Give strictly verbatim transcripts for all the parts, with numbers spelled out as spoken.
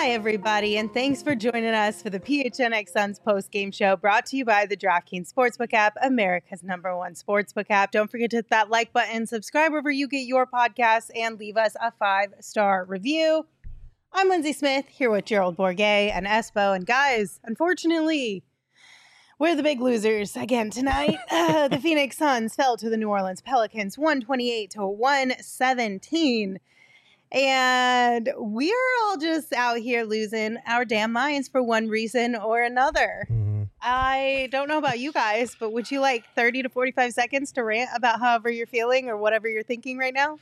Hi, everybody, and thanks for joining us for the P H N X Suns post-game show brought to you by the DraftKings Sportsbook app, America's number one sportsbook app. Don't forget to hit that like button, subscribe wherever you get your podcasts, and leave us a five-star review. I'm Lindsay Smith, here with Gerald Bourguet and Espo. And guys, unfortunately, we're the big losers again tonight. Uh, the Phoenix Suns fell to the New Orleans Pelicans one twenty-eight to one seventeen. And we're all just out here losing our damn minds for one reason or another. Mm-hmm. I don't know about you guys, but would you like thirty to forty-five seconds to rant about however you're feeling or whatever you're thinking right now?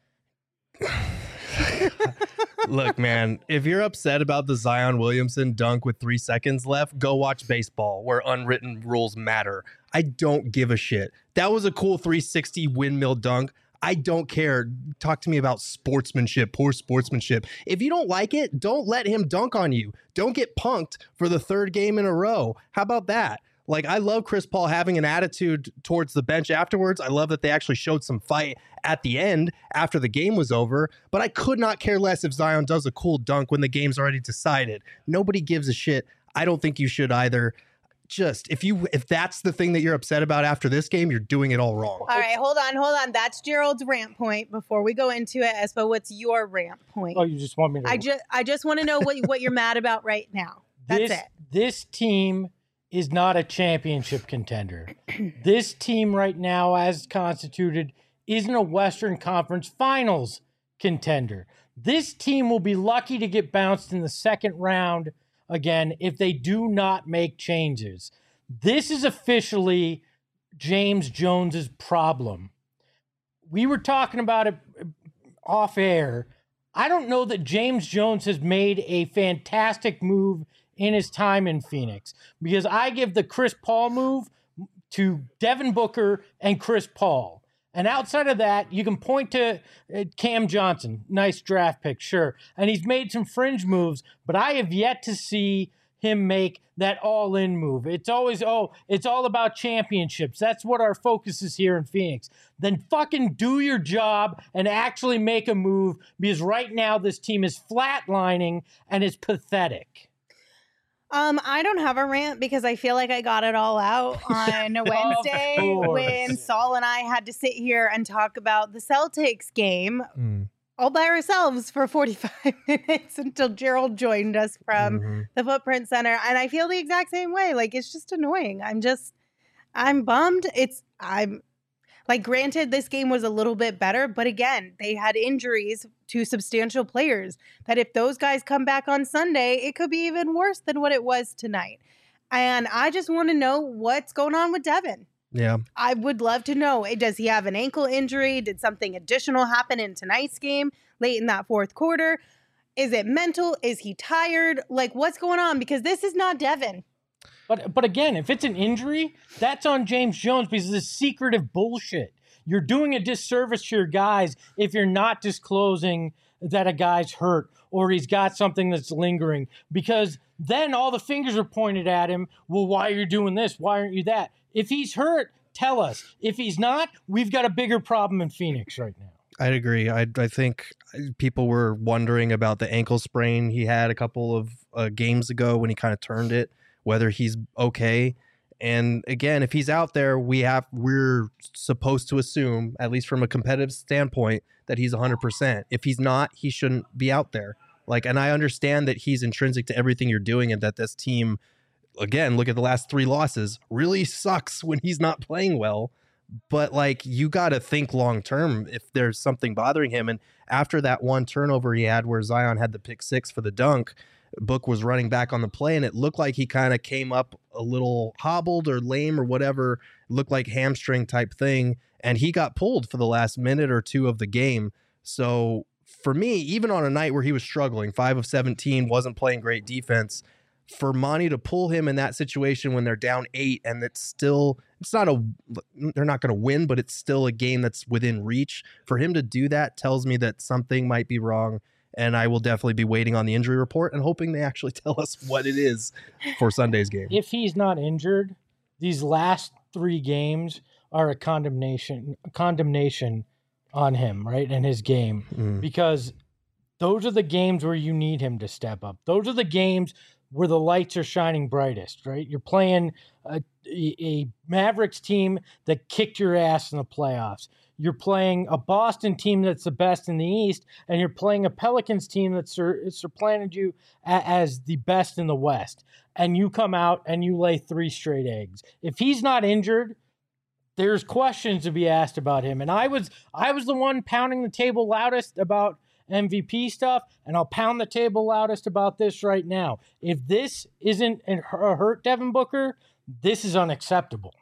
Look, man, if you're upset about the Zion Williamson dunk with three seconds left, go watch baseball where unwritten rules matter. I don't give a shit. That was a cool three sixty windmill dunk. I don't care. Talk to me about sportsmanship, poor sportsmanship. If you don't like it, don't let him dunk on you. Don't get punked for the third game in a row. How about that? Like, I love Chris Paul having an attitude towards the bench afterwards. I love that they actually showed some fight at the end after the game was over. But I could not care less if Zion does a cool dunk when the game's already decided. Nobody gives a shit. I don't think you should either. Just if you if that's the thing that you're upset about after this game, you're doing it all wrong. All right, hold on, hold on. That's Gerald's rant point. Before we go into it, Espo, what's your rant point? Oh, you just want me to? I just I just want to know what what you're mad about right now. That's this, it. This team is not a championship contender. This team right now, as constituted, isn't a Western Conference Finals contender. This team will be lucky to get bounced in the second round again if they do not make changes. This is officially James Jones's problem. We were talking about it off air. I don't know that James Jones has made a fantastic move in his time in Phoenix, because I give the Chris Paul move to Devin Booker and Chris Paul. And outside of that, you can point to uh, Cam Johnson. Nice draft pick, sure. And he's made some fringe moves, but I have yet to see him make that all-in move. It's always, oh, it's all about championships. That's what our focus is here in Phoenix. Then fucking do your job and actually make a move, because right now this team is flatlining and it's pathetic. Um, I don't have a rant because I feel like I got it all out on Wednesday when Saul and I had to sit here and talk about the Celtics game mm. all by ourselves for forty-five minutes until Gerald joined us from mm-hmm. the Footprint Center. And I feel the exact same way. Like, it's just annoying. I'm just, I'm bummed. It's, I'm like, granted, this game was a little bit better, but again, they had injuries to substantial players that if those guys come back on Sunday, it could be even worse than what it was tonight. And I just want to know what's going on with Devin. Yeah. I would love to know. Does he have an ankle injury? Did something additional happen in tonight's game late in that fourth quarter? Is it mental? Is he tired? Like, what's going on? Because this is not Devin. But but again, if it's an injury, that's on James Jones, because it's secretive bullshit. You're doing a disservice to your guys if you're not disclosing that a guy's hurt or he's got something that's lingering, because then all the fingers are pointed at him. Well, why are you doing this? Why aren't you that? If he's hurt, tell us. If he's not, we've got a bigger problem in Phoenix right now. I'd agree. I I think people were wondering about the ankle sprain he had a couple of uh, games ago when he kind of turned it, whether he's okay. And again, if he's out there, we have we're supposed to assume, at least from a competitive standpoint, that he's one hundred percent. If he's not, he shouldn't be out there. Like, and I understand that he's intrinsic to everything you're doing, and that this team, again, look at the last three losses, really sucks when he's not playing well. But like, you got to think long term if there's something bothering him. And after that one turnover he had where Zion had the pick six for the dunk, Book was running back on the play, and it looked like he kind of came up a little hobbled or lame or whatever. It looked like hamstring type thing, and he got pulled for the last minute or two of the game. So for me, even on a night where he was struggling, five of seventeen, wasn't playing great defense, for Monty to pull him in that situation when they're down eight, and it's still, it's not a, they're not going to win, but it's still a game that's within reach. For him to do that tells me that something might be wrong. And I will definitely be waiting on the injury report and hoping they actually tell us what it is for Sunday's game. If he's not injured, these last three games are a condemnation, condemnation on him, right, in his game. Mm. Because those are the games where you need him to step up. Those are the games where the lights are shining brightest, right? You're playing a, a Mavericks team that kicked your ass in the playoffs. You're playing a Boston team that's the best in the East, and you're playing a Pelicans team that's sur- supplanted you a- as the best in the West. And you come out and you lay three straight eggs. If he's not injured, there's questions to be asked about him. And I was I was the one pounding the table loudest about M V P stuff, and I'll pound the table loudest about this right now. If this isn't a hurt Devin Booker, this is unacceptable.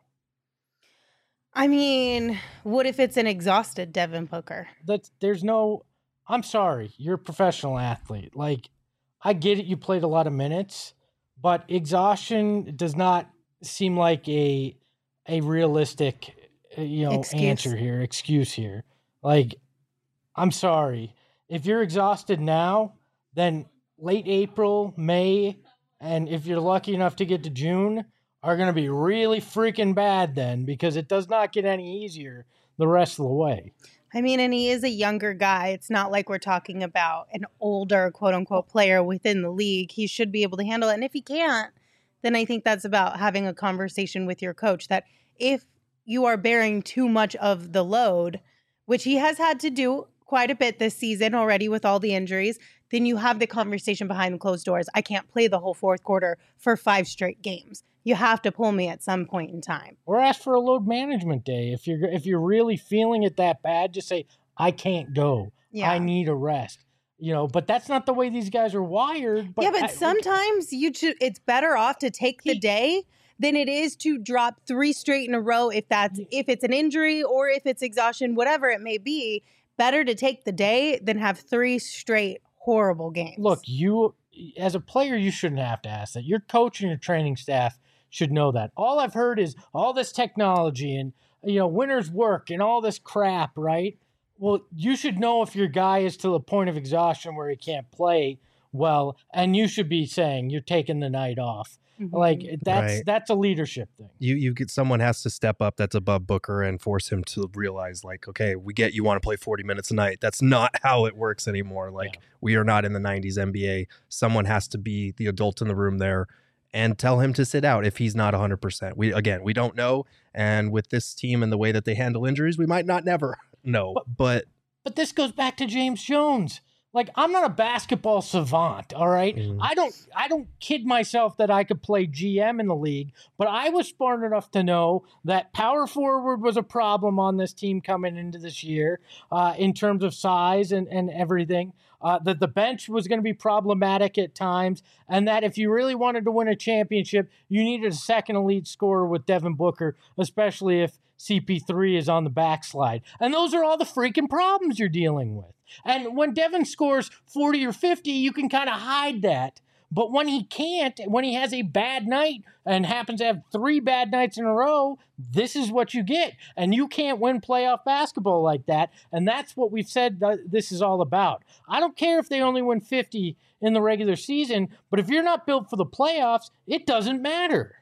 I mean, what if it's an exhausted Devin Booker? That's there's no. I'm sorry, you're a professional athlete. Like, I get it, you played a lot of minutes, but exhaustion does not seem like a a realistic, you know, Excuse. answer here, excuse here. Like, I'm sorry. If you're exhausted now, then late April, May, and if you're lucky enough to get to June, are going to be really freaking bad then, because it does not get any easier the rest of the way. I mean, and he is a younger guy. It's not like we're talking about an older, quote unquote, player within the league. He should be able to handle it. And if he can't, then I think that's about having a conversation with your coach that if you are bearing too much of the load, which he has had to do quite a bit this season already with all the injuries, then you have the conversation behind the closed doors. I can't play the whole fourth quarter for five straight games. You have to pull me at some point in time. Or ask for a load management day. If you're if you're really feeling it that bad, just say, I can't go. Yeah. I need a rest. You know, but that's not the way these guys are wired. But yeah, but I, sometimes you should, it's better off to take the He- day than it is to drop three straight in a row if that's if it's an injury or if it's exhaustion, whatever it may be. Better to take the day than have three straight horrible games. Look, you as a player, you shouldn't have to ask that. Your coach and your training staff should know that. All I've heard is all this technology and, you know, winter's work and all this crap, right? Well, you should know if your guy is to the point of exhaustion where he can't play well, and you should be saying you're taking the night off. Mhm. Like, that's Right. that's a leadership thing. You you get someone has to step up that's above Booker and force him to realize, like, okay, we get you want to play forty minutes a night. That's not how it works anymore. Like, Yeah. we are not in the nineties N B A. Someone has to be the adult in the room there and tell him to sit out if he's not one hundred percent. We again, we don't know, and with this team and the way that they handle injuries, we might not never know. But- But But this goes back to James Jones. Like, I'm not a basketball savant, all right? Mhm. I don't I don't kid myself that I could play G M in the league, but I was smart enough to know that power forward was a problem on this team coming into this year uh, in terms of size and, and everything, uh, that the bench was going to be problematic at times, and that if you really wanted to win a championship, you needed a second elite scorer with Devin Booker, especially if C P three is on the backslide. And those are all the freaking problems you're dealing with. And when Devin scores forty or fifty, you can kind of hide that. But when he can't, when he has a bad night and happens to have three bad nights in a row, this is what you get. And you can't win playoff basketball like that. And that's what we've said that this is all about. I don't care if they only win fifty in the regular season, but if you're not built for the playoffs, it doesn't matter.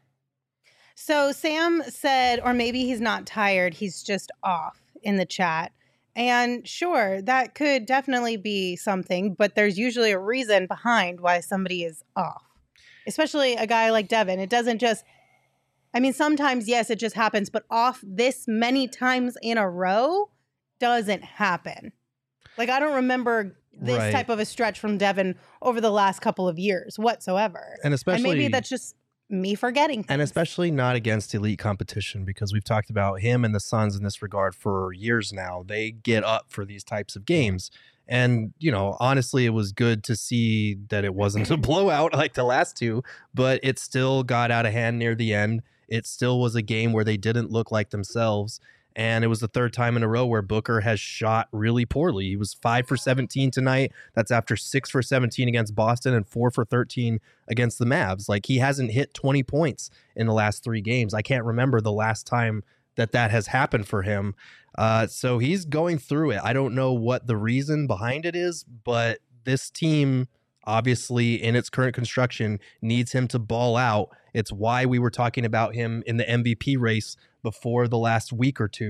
So Sam said, or maybe he's not tired, he's just off in the chat. And sure, that could definitely be something, but there's usually a reason behind why somebody is off, especially a guy like Devin. It doesn't just, I mean, sometimes, yes, it just happens, but off this many times in a row doesn't happen. Like, I don't remember this Right. type of a stretch from Devin over the last couple of years whatsoever. and especially And maybe that's just me forgetting things. and especially not against elite competition, because we've talked about him and the Suns in this regard for years now. They get up for these types of games. And, you know, honestly, it was good to see that it wasn't a blowout like the last two, but it still got out of hand near the end. It still was a game where they didn't look like themselves. And it was the third time in a row where Booker has shot really poorly. He was five for seventeen tonight. That's after six for seventeen against Boston and four for thirteen against the Mavs. Like, he hasn't hit twenty points in the last three games. I can't remember the last time that that has happened for him. Uh, so he's going through it. I don't know what the reason behind it is, but this team, obviously in its current construction, needs him to ball out. It's why we were talking about him in the M V P race before the last week or two.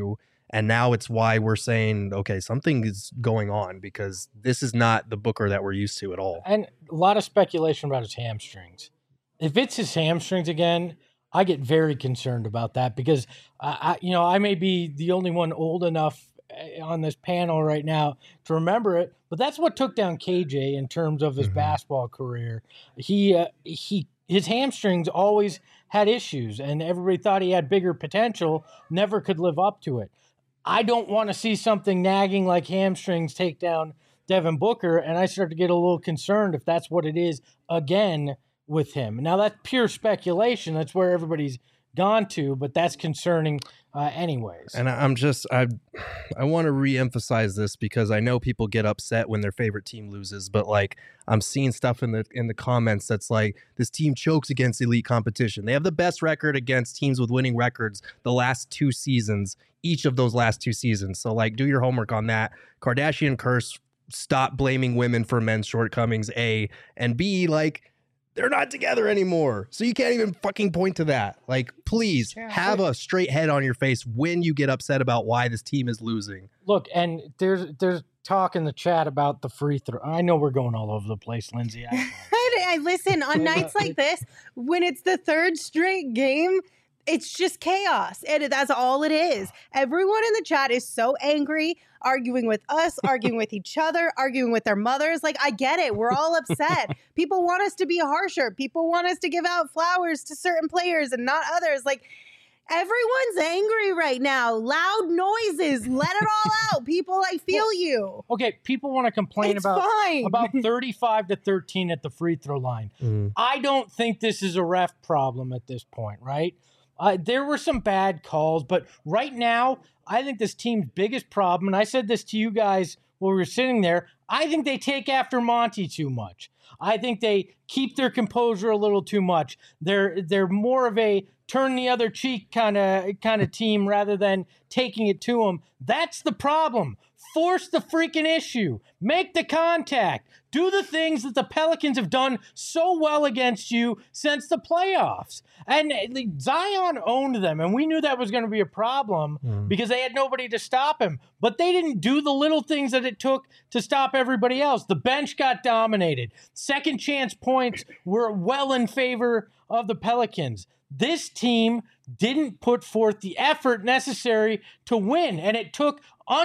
And now it's why we're saying, okay, something is going on because this is not the Booker that we're used to at all. And a lot of speculation about his hamstrings. If it's his hamstrings again, I get very concerned about that because, uh, I, you know, I may be the only one old enough on this panel right now to remember it, but that's what took down K J in terms of his mm-hmm. basketball career. He, uh, he, his hamstrings always had issues, and everybody thought he had bigger potential, never could live up to it. I don't want to see something nagging like hamstrings take down Devin Booker, and I start to get a little concerned if that's what it is again with him. Now, that's pure speculation. That's where everybody's gone to, but that's concerning uh, anyways. And I'm just, I I want to reemphasize this because I know people get upset when their favorite team loses, but like I'm seeing stuff in the in the comments that's like, this team chokes against elite competition. They have the best record against teams with winning records the last two seasons, each of those last two seasons. So like, do your homework on that. Kardashian curse, stop blaming women for men's shortcomings, A, and B, like, they're not together anymore. So you can't even fucking point to that. Like, please yeah, have a straight head on your face when you get upset about why this team is losing. Look, and there's there's talk in the chat about the free throw. I know we're going all over the place, Lindsay. I, I listen, on nights like this, when it's the third straight game, it's just chaos. And that's all it is. Everyone in the chat is so angry, arguing with us, arguing with each other, arguing with their mothers. Like, I get it. We're all upset. People want us to be harsher. People want us to give out flowers to certain players and not others. Like, everyone's angry right now. Loud noises. Let it all out. People, I feel well, you. Okay, people want to complain it's about, fine. about thirty-five to thirteen at the free throw line. Mm. I don't think this is a ref problem at this point, right? Uh, there were some bad calls, but right now, I think this team's biggest problem, and I said this to you guys while we were sitting there, I think they take after Monty too much. I think they keep their composure a little too much. They're they're more of a turn the other cheek kind of kind of team rather than taking it to them. That's the problem. Force the freaking issue. Make the contact. Do the things that the Pelicans have done so well against you since the playoffs. And Zion owned them, and we knew that was going to be a problem mm. because they had nobody to stop him. But they didn't do the little things that it took to stop everybody else. The bench got dominated. Second chance points were well in favor of the Pelicans. This team didn't put forth the effort necessary to win, and it took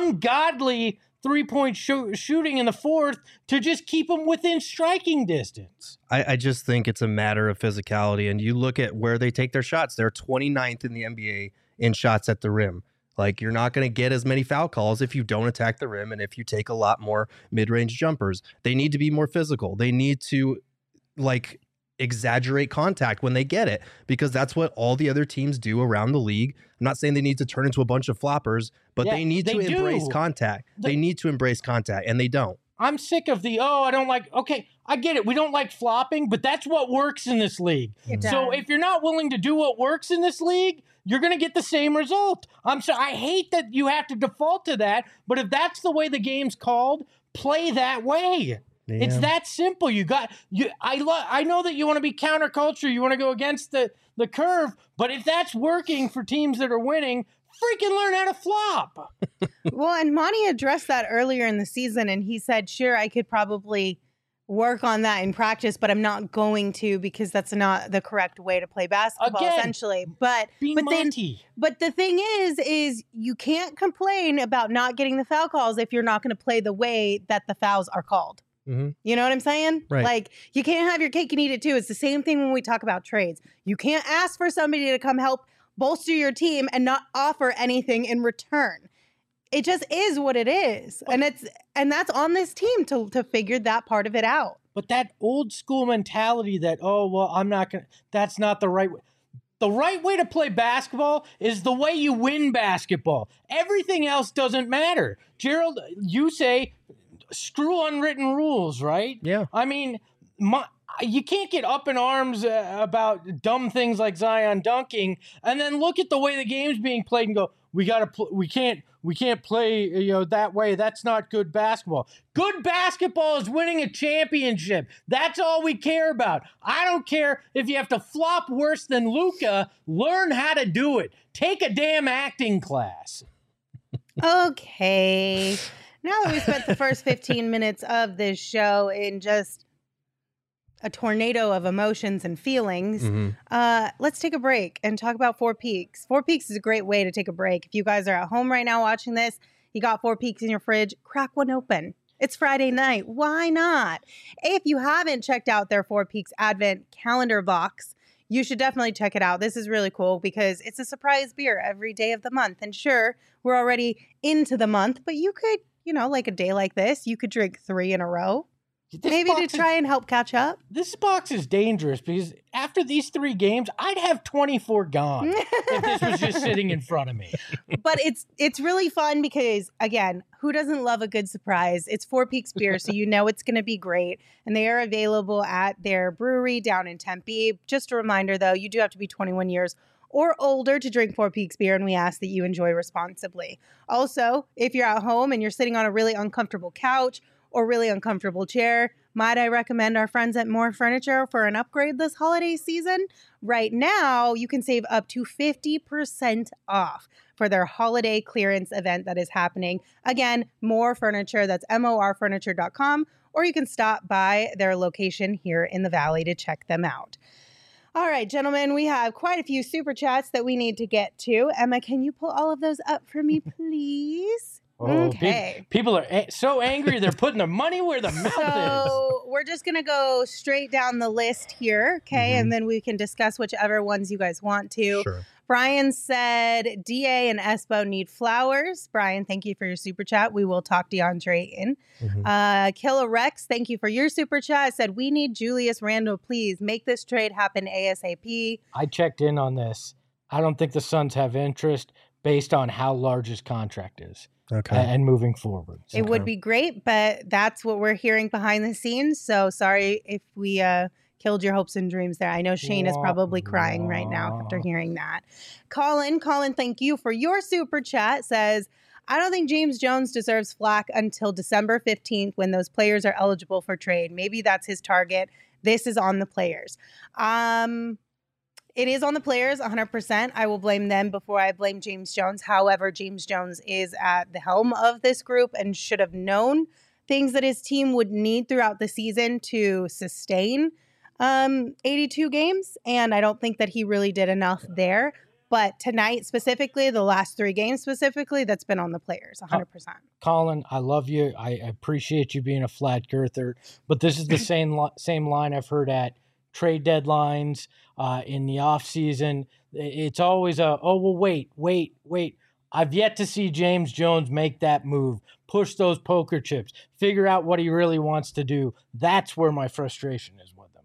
ungodly three-point sh- shooting in the fourth to just keep them within striking distance. I, I just think it's a matter of physicality, and you look at where they take their shots. They're twenty-ninth in the N B A in shots at the rim. Like, you're not going to get as many foul calls if you don't attack the rim and if you take a lot more mid-range jumpers. They need to be more physical. They need to, like, exaggerate contact when they get it, because that's what all the other teams do around the league. I'm not saying they need to turn into a bunch of floppers, but yeah, they need to they embrace do. contact. The, they need to embrace contact, and they don't. I'm sick of the, oh, I don't like, okay, I get it. We don't like flopping, but that's what works in this league. It so does. If you're not willing to do what works in this league, you're going to get the same result. I'm so I hate that you have to default to that, but if that's the way the game's called, play that way. Yeah. It's that simple. You got you. I love. I know that you want to be counterculture. You want to go against the, the curve. But if that's working for teams that are winning, freaking learn how to flop. Well, and Monty addressed that earlier in the season, and he said, "Sure, I could probably work on that in practice, but I'm not going to because that's not the correct way to play basketball." Again, essentially, but being but Monty. then, but the thing is, is you can't complain about not getting the foul calls if you're not going to play the way that the fouls are called. Mm-hmm. You know what I'm saying? Right. Like, you can't have your cake and eat it too. It's the same thing when we talk about trades. You can't ask for somebody to come help bolster your team and not offer anything in return. It just is what it is. And it's and that's on this team to to figure that part of it out. But that old school mentality that, oh, well, I'm not going to, that's not the right way. The right way to play basketball is the way you win basketball. Everything else doesn't matter. Gerald, you say, screw unwritten rules, right? Yeah. I mean, my, you can't get up in arms uh, about dumb things like Zion dunking, and then look at the way the game's being played and go, "We gotta, pl- we can't, we can't play, you know, that way. That's not good basketball. Good basketball is winning a championship. That's all we care about. I don't care if you have to flop worse than Luka. Learn how to do it. Take a damn acting class." Okay. Now that we spent the first fifteen minutes of this show in just a tornado of emotions and feelings, Mm-hmm. uh, let's take a break and talk about Four Peaks. Four Peaks is a great way to take a break. If you guys are at home right now watching this, you got Four Peaks in your fridge, crack one open. It's Friday night. Why not? If you haven't checked out their Four Peaks Advent calendar box, you should definitely check it out. This is really cool because it's a surprise beer every day of the month. And sure, we're already into the month, but you could, you know, like a day like this, you could drink three in a row. This Maybe to box try is, and help catch up. This box is dangerous because after these three games, I'd have twenty-four gone if this was just sitting in front of me. But it's it's really fun because, again, who doesn't love a good surprise? It's Four Peaks beer, so you know it's going to be great. And they are available at their brewery down in Tempe. Just a reminder, though, you do have to be twenty-one years or older to drink Four Peaks beer, and we ask that you enjoy responsibly. Also, if you're at home and you're sitting on a really uncomfortable couch or really uncomfortable chair, might I recommend our friends at More Furniture for an upgrade this holiday season? Right now, you can save up to fifty percent off for their holiday clearance event that is happening. Again, More Furniture, that's M O R furniture dot com, or you can stop by their location here in the Valley to check them out. All right, gentlemen, we have quite a few super chats that we need to get to. Emma, can you pull all of those up for me, please? Oh, Okay. pe- people are a- so angry they're putting their money where their mouth is. So we're just going to go straight down the list here, okay? Mhm. And then we can discuss whichever ones you guys want to. Sure. Brian said D A and Espo need flowers. Brian, thank you for your super chat. We will talk DeAndre in. Mhm. Uh, Killa Rex, thank you for your super chat. Said, we need Julius Randle, please. Make this trade happen ASAP. I checked in on this. I don't think the Suns have interest based on how large his contract is Okay. a- and moving forward. So- It would Okay. be great, but that's what we're hearing behind the scenes. So sorry if we uh, killed your hopes and dreams there. I know Shane is probably crying right now after hearing that. Colin, Colin, thank you for your super chat. Says, I don't think James Jones deserves flack until December fifteenth when those players are eligible for trade. Maybe that's his target. This is on the players. Um, it is on the players one hundred percent. I will blame them before I blame James Jones. However, James Jones is at the helm of this group and should have known things that his team would need throughout the season to sustain um, eighty-two games. And I don't think that he really did enough there. But tonight specifically, the last three games specifically, that's been on the players one hundred percent. Colin, I love you. I appreciate you being a flat girther, but this is the same li- same line I've heard at trade deadlines, uh, in the off season. It's always a, oh, well, wait, wait, wait. I've yet to see James Jones make that move, push those poker chips, figure out what he really wants to do. That's where my frustration is with him.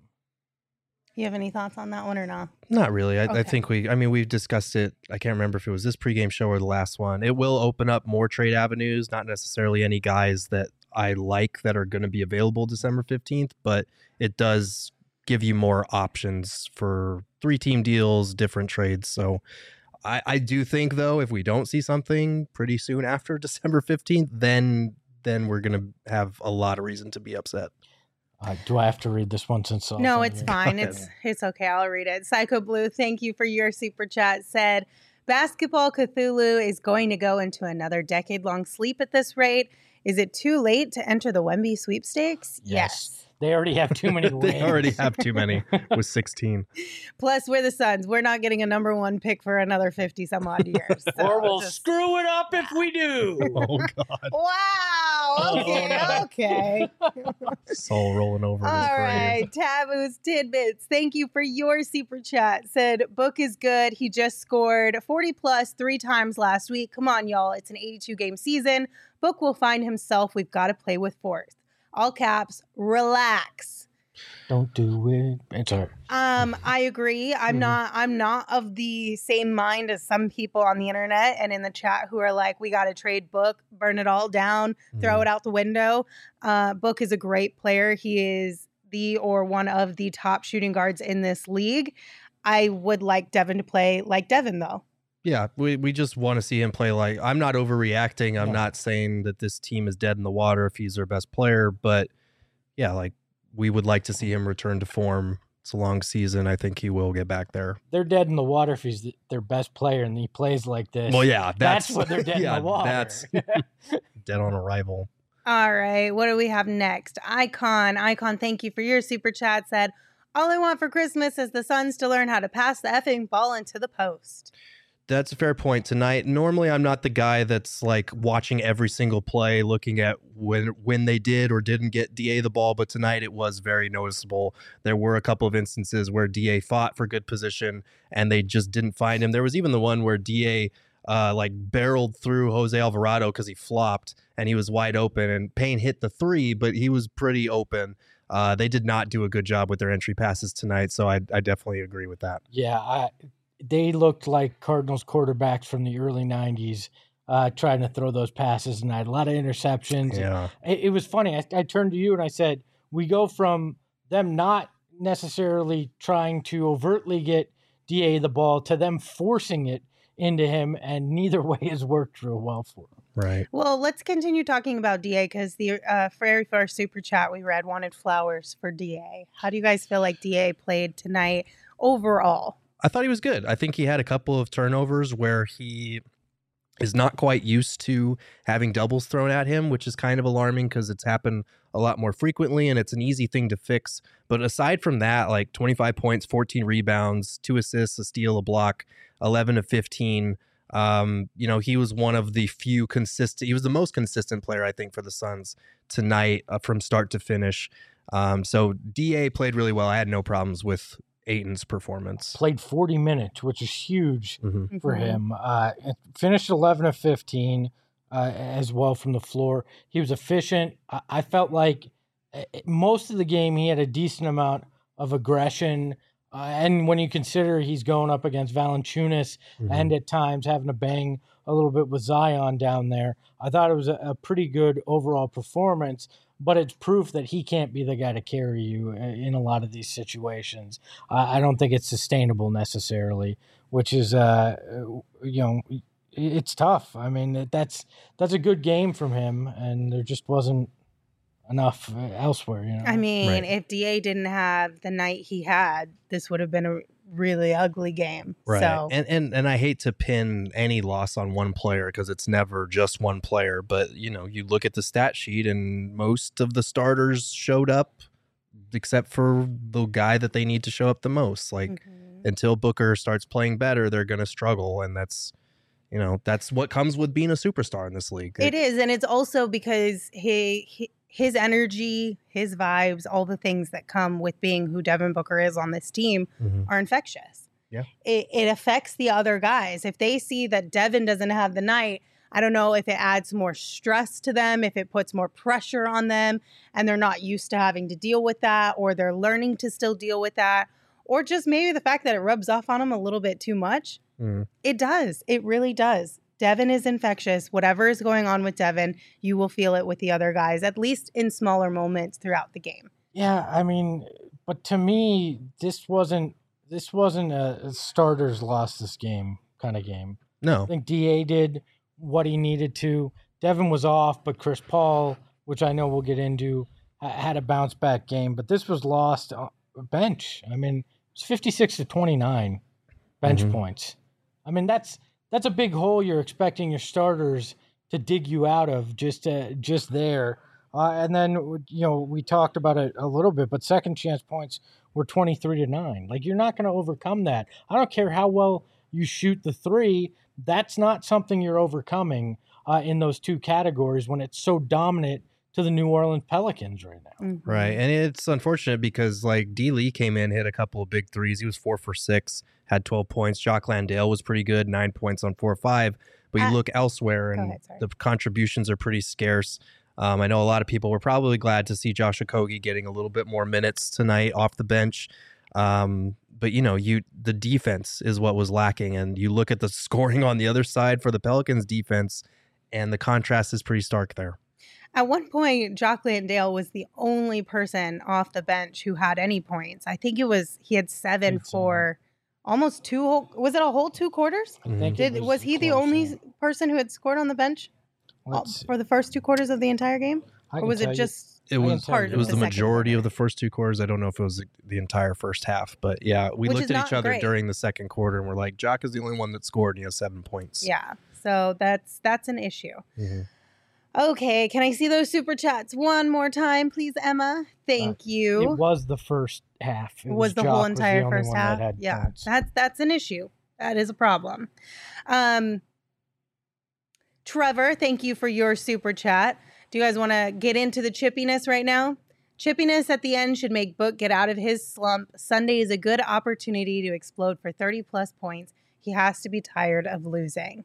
You have any thoughts on that one or not? Not really. I, Okay. I think we, I mean, we've discussed it. I can't remember if it was this pregame show or the last one. It will open up more trade avenues, not necessarily any guys that I like that are going to be available December fifteenth, but it does give you more options for three team deals, different trades. So I, I do think, though, if we don't see something pretty soon after December fifteenth, then then we're going to have a lot of reason to be upset. Uh, do I have to read this one since? No, it's fine. ahead. It's it's okay. I'll read it. Psycho Blue, thank you for your super chat. Said, Basketball Cthulhu is going to go into another decade-long sleep at this rate. Is it too late to enter the Wemby sweepstakes? Yes. They already have too many wins. They already have too many with sixteen. Plus, we're the Suns. We're not getting a number one pick for another fifty some odd years. So Or we'll just- screw it up if we do. Oh, God. Wow. Okay. Oh, Okay. Soul rolling over in his All grave. right, Taboo's Tidbits. Thank you for your super chat. Said, Book is good. He just scored forty plus three times last week. Come on, y'all. It's an eighty-two game season. Book will find himself. We've got to play with force. All caps, relax. Don't do it. It's all right. Um, I agree. I'm Mhm. not I'm not of the same mind as some people on the internet and in the chat who are like, we gotta trade Book, burn it all down, throw Mhm. it out the window. Uh, Book is a great player. He is the or one of the top shooting guards in this league. I would like Devin to play like Devin though. Yeah, we, we just want to see him play like, I'm not overreacting. I'm Yeah. not saying that this team is dead in the water if he's their best player, but yeah, like we would like to see him return to form It's a long season. I think he will get back there. They're dead in the water if he's their best player and he plays like this. Well, yeah, that's, that's what they're dead yeah, in the water. That's dead on arrival. All right, what do we have next? Icon, Icon, thank you for your super chat. Said, all I want for Christmas is the Suns to learn how to pass the effing ball into the post. That's a fair point tonight. Normally, I'm not the guy that's like watching every single play, looking at when when they did or didn't get D A the ball. But tonight, it was very noticeable. There were a couple of instances where D A fought for good position and they just didn't find him. There was even the one where D A uh, like barreled through Jose Alvarado because he flopped and he was wide open. And Payne hit the three, but he was pretty open. Uh, they did not do a good job with their entry passes tonight. So I, I definitely agree with that. Yeah, I. They looked like Cardinals quarterbacks from the early nineties uh, trying to throw those passes, and I had a lot of interceptions. Yeah. It, it was funny. I, I turned to you and I said, we go from them not necessarily trying to overtly get D A the ball to them forcing it into him, and neither way has worked real well for him. Right. Well, let's continue talking about D A because the uh, very first super chat we read wanted flowers for D A. How do you guys feel like D A played tonight overall? I thought he was good. I think he had a couple of turnovers where he is not quite used to having doubles thrown at him, which is kind of alarming because it's happened a lot more frequently and it's an easy thing to fix. But aside from that, like twenty-five points, fourteen rebounds, two assists, a steal, a block, eleven of fifteen. Um, you know, he was one of the few consistent, he was the most consistent player, I think, for the Suns tonight uh, from start to finish. Um, so D A played really well. I had no problems with Ayton's performance. Played forty minutes, which is huge mm-hmm. for him. Uh, finished eleven of fifteen uh, as well from the floor. He was efficient. I, I felt like most of the game he had a decent amount of aggression. Uh, and when you consider he's going up against Valanciunas mm-hmm. and at times having to bang a little bit with Zion down there, I thought it was a, a pretty good overall performance. But it's proof that he can't be the guy to carry you in a lot of these situations. I don't think it's sustainable necessarily, which is, uh, you know, it's tough. I mean, that's that's a good game from him, and there just wasn't enough elsewhere. You know? I mean, right. if D A didn't have the night he had, this would have been a really ugly game. Right. So. And, and and I hate to pin any loss on one player because it's never just one player. But, you know, you look at the stat sheet and most of the starters showed up except for the guy that they need to show up the most. Like mm-hmm. until Booker starts playing better, they're going to struggle. And that's, you know, that's what comes with being a superstar in this league. It, it is. And it's also because he, he his energy, his vibes, all the things that come with being who Devin Booker is on this team mm-hmm. are infectious. Yeah. It, it affects the other guys. If they see that Devin doesn't have the night, I don't know if it adds more stress to them, if it puts more pressure on them and they're not used to having to deal with that, or they're learning to still deal with that, or just maybe the fact that it rubs off on them a little bit too much. Mm. It does. It really does. Devin is infectious. Whatever is going on with Devin, you will feel it with the other guys, at least in smaller moments throughout the game. Yeah, I mean, but to me, this wasn't this wasn't a starters lost this game kind of game. No. I think D A did what he needed to. Devin was off, but Chris Paul, which I know we'll get into, had a bounce back game. But this was lost on bench. I mean, it's fifty-six to twenty-nine bench mm-hmm. points. I mean, that's that's a big hole you're expecting your starters to dig you out of just uh, just there. Uh, and then, you know, we talked about it a little bit, but second chance points were twenty-three to nine. Like, you're not going to overcome that. I don't care how well you shoot the three. That's not something you're overcoming uh, in those two categories when it's so dominant to the New Orleans Pelicans right now. Mm-hmm. Right. And it's unfortunate because, like, D. Lee came in, hit a couple of big threes. He was four for six, had twelve points. Jock Landale was pretty good, nine points on four or five. But you uh, look elsewhere, and ahead, the contributions are pretty scarce. Um, I know a lot of people were probably glad to see Josh Okogie getting a little bit more minutes tonight off the bench. Um, but, you know, you the defense is what was lacking. And you look at the scoring on the other side for the Pelicans defense, and the contrast is pretty stark there. At one point, Jock Landale was the only person off the bench who had any points. I think it was he had seven for almost two whole, was it a whole two quarters? I think Did was, was he close, the only yeah. person who had scored on the bench Let's for the first two quarters of the entire game? Or was it just It was Part it was of the, the second majority quarter. of the first two quarters. I don't know if it was the, the entire first half, but yeah, we Which is looked at each not other great. during the second quarter and we're like, Jock is the only one that scored and he has seven points. Yeah. So that's that's an issue. Mhm. Okay, can I see those super chats one more time, please, Emma? Thank you. It was the first half. It was the Jock whole was entire only first one half. That had Yeah, points. that's that's an issue. That is a problem. Um, Trevor, thank you for your super chat. Do you guys want to get into the chippiness right now? Chippiness at the end should make Book get out of his slump. Sunday is a good opportunity to explode for thirty plus points. He has to be tired of losing.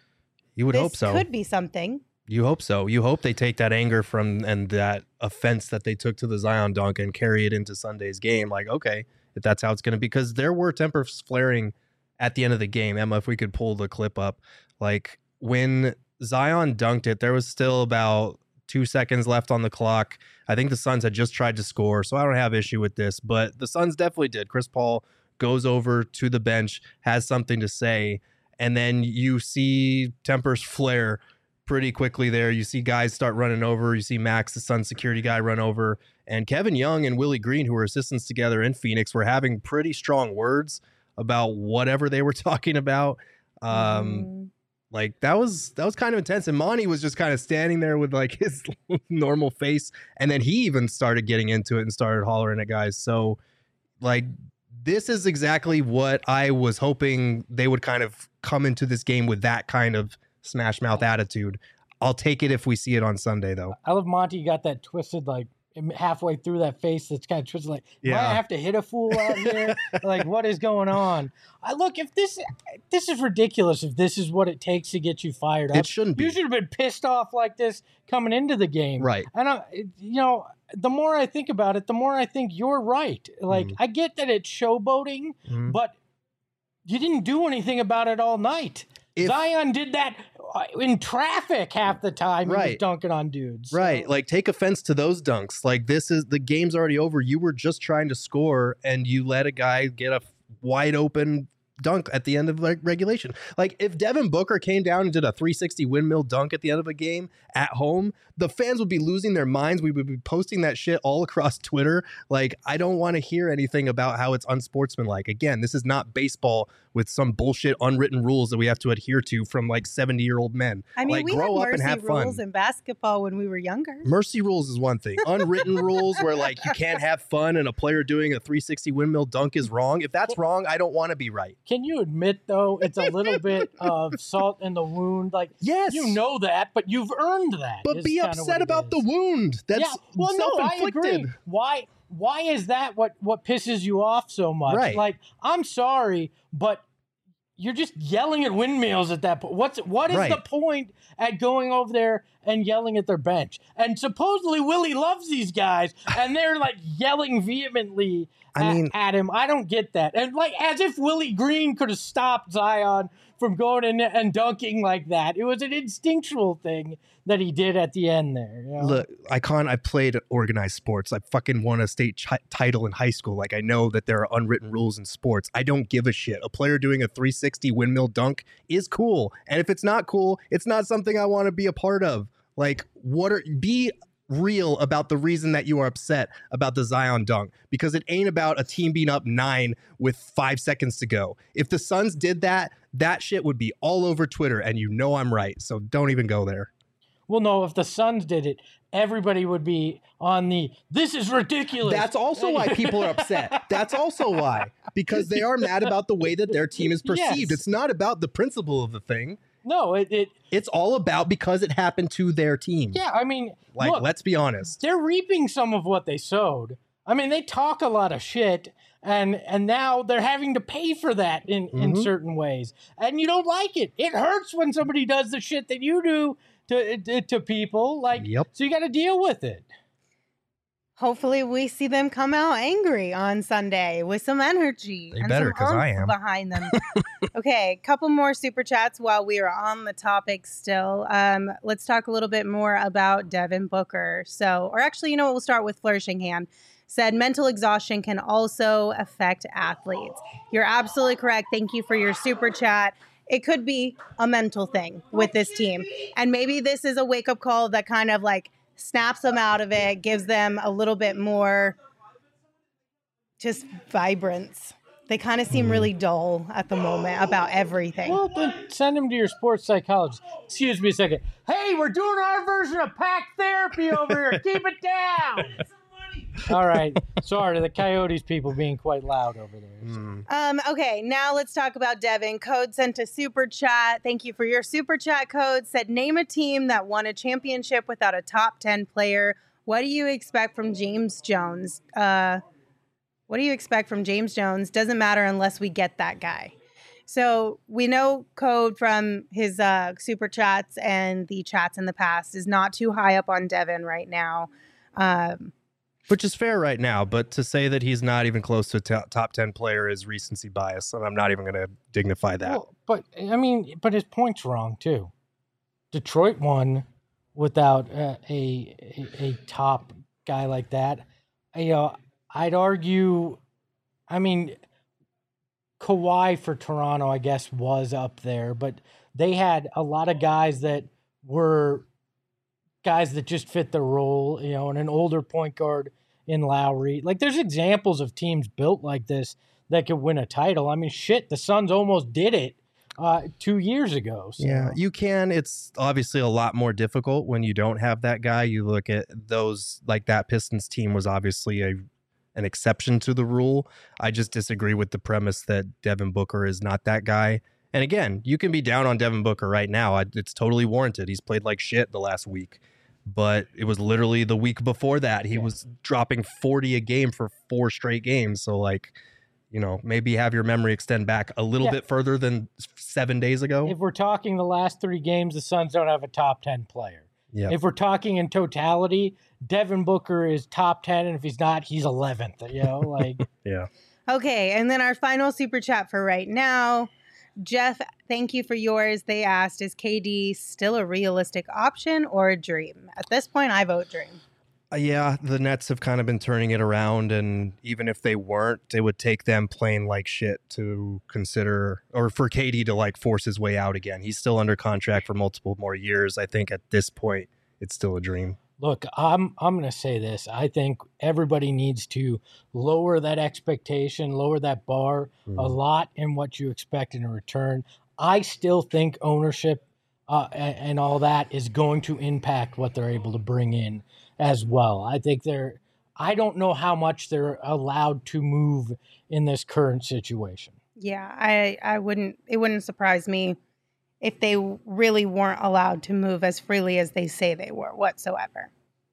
You would this hope so. Could be something. You hope so. You hope they take that anger from and that offense that they took to the Zion dunk and carry it into Sunday's game. Like, okay, if that's how it's going to be, because there were tempers flaring at the end of the game. Emma, if we could pull the clip up, like when Zion dunked it, there was still about two seconds left on the clock. I think the Suns had just tried to score, so I don't have issue with this, but the Suns definitely did. Chris Paul goes over to the bench, has something to say, and then you see tempers flare pretty quickly there. You see guys start running over. You see Max, the Suns security guy, run over. And Kevin Young and Willie Green, who were assistants together in Phoenix, were having pretty strong words about whatever they were talking about. Um, Mm. Like that was that was kind of intense. And Monty was just kind of standing there with like his normal face. And then he even started getting into it and started hollering at guys. So like this is exactly what I was hoping they would kind of come into this game with, that kind of smash mouth attitude. I'll take it if we see it on Sunday, though. I love Monty got that twisted, like halfway through that face that's kind of twisted, like, do Yeah. I have to hit a fool out here? Like, what is going on? I look, if this this is ridiculous, if this is what it takes to get you fired up. It shouldn't be. You should have been pissed off like this coming into the game. Right. And, I, you know, the more I think about it, the more I think you're right. Like, Mhm. I get that it's showboating, Mhm. but you didn't do anything about it all night. If- Zion did that in traffic half the time. He was Right. dunking on dudes. So- Right. Like, take offense to those dunks. Like, this is the game's already over. You were just trying to score and you let a guy get a wide open dunk at the end of like regulation. Like, if Devin Booker came down and did a three sixty windmill dunk at the end of a game at home, the fans would be losing their minds. We would be posting that shit all across Twitter. Like, I don't want to hear anything about how it's unsportsmanlike. Again, this is not baseball with some bullshit unwritten rules that we have to adhere to from like seventy year old men. I mean, like, we grow had up and mercy have fun. rules in basketball when we were younger. Mercy rules is one thing. Unwritten rules where like you can't have fun and a player doing a three sixty windmill dunk is wrong. If that's wrong, I don't want to be right. Can you admit, though, it's a little bit of salt in the wound? Like, Yes. you know that, but you've earned that. But is be kinda upset what it about the is. wound. That's yeah. Well, no, I self-inflicted. agree. Why? Why is that what what pisses you off so much? Right. Like, I'm sorry, but you're just yelling at windmills at that point. What's what is Right. the point at going over there and yelling at their bench? And supposedly Willie loves these guys, and they're like yelling vehemently I at, mean- at him. I don't get that. And like as if Willie Green could have stopped Zion from going in and dunking like that. It was an instinctual thing that he did at the end there. You know? Look, Icon, I played organized sports. I fucking won a state chi- title in high school. Like, I know that there are unwritten rules in sports. I don't give a shit. A player doing a three sixty windmill dunk is cool. And if it's not cool, it's not something I want to be a part of. Like, what are, be real about the reason that you are upset about the Zion dunk, because it ain't about a team being up nine with five seconds to go. If the Suns did that, that shit would be all over Twitter, and you know I'm right. So don't even go there. Well, no, if the Suns did it, everybody would be on the, this is ridiculous. That's also why people are upset. That's also why. Because they are mad about the way that their team is perceived. Yes. It's not about the principle of the thing. No, it, it It's all about because it happened to their team. yeah, I mean, Like, look, let's be honest. they're reaping some of what they sowed. I mean, they talk a lot of shit, and and now they're having to pay for that in, in Mhm. certain ways. And you don't like it. It hurts when somebody does the shit that you do to to, to people. Like, Yep. so you got to deal with it. Hopefully, we see them come out angry on Sunday with some energy. They and better, some 'cause I oomph am. behind them. Okay, couple more super chats while we are on the topic still. Um, let's talk a little bit more about Devin Booker. So, or actually, you know what? We'll start with Flourishing Hand. Said mental exhaustion can also affect athletes. You're absolutely correct. Thank you for your super chat. It could be a mental thing with this team. And maybe this is a wake up call that kind of like snaps them out of it, gives them a little bit more just vibrance. They kind of seem really dull at the moment about everything. Well, then send them to your sports psychologist. Excuse me a second. Hey, we're doing our version of pack therapy over here. Keep it down. All right. Sorry, the Coyotes people being quite loud over there. So. Mm. Um, okay, now let's talk about Devin. Code sent a super chat. Thank you for your super chat, Code. Said, name a team that won a championship without a top ten player. What do you expect from James Jones? Uh... What do you expect from James Jones? Doesn't matter unless we get that guy. So we know Code from his uh, super chats and the chats in the past is not too high up on Devin right now. Um, Which is fair right now, but to say that he's not even close to a t- top ten player is recency bias, and I'm not even going to dignify that. Well, but, I mean, but his point's wrong, too. Detroit won without uh, a, a a top guy like that. You know, I'd argue, I mean, Kawhi for Toronto, I guess, was up there, but they had a lot of guys that were guys that just fit the role, you know, and an older point guard in Lowry. Like, there's examples of teams built like this that could win a title. I mean, shit, the Suns almost did it uh, two years ago. So. Yeah, you can. It's obviously a lot more difficult when you don't have that guy. You look at those, like that Pistons team was obviously a an exception to the rule. I just disagree with the premise that Devin Booker is not that guy. And again, you can be down on Devin Booker right now. It's totally warranted. He's played like shit the last week. But it was literally the week before that. He yeah. was dropping forty a game for four straight games. So, like, you know, maybe have your memory extend back a little yeah. bit further than seven days ago. If we're talking the last three games, the Suns don't have a top ten player. Yep. If we're talking in totality, Devin Booker is top ten, and if he's not, he's eleventh. You know, like yeah. Okay, and then our final super chat for right now, Jeff. Thank you for yours. They asked, "Is K D still a realistic option or a dream?" At this point, I vote dream. Uh, yeah, the Nets have kind of been turning it around, and even if they weren't, it would take them playing like shit to consider, or for K D to like force his way out again. He's still under contract for multiple more years. I think at this point, it's still a dream. Look, I'm I'm going to say this. I think everybody needs to lower that expectation, lower that bar mm. a lot in what you expect in return. I still think ownership uh, and, and all that is going to impact what they're able to bring in as well. I think they're, I don't know how much they're allowed to move in this current situation. Yeah, I, I wouldn't, it wouldn't surprise me if they really weren't allowed to move as freely as they say they were whatsoever.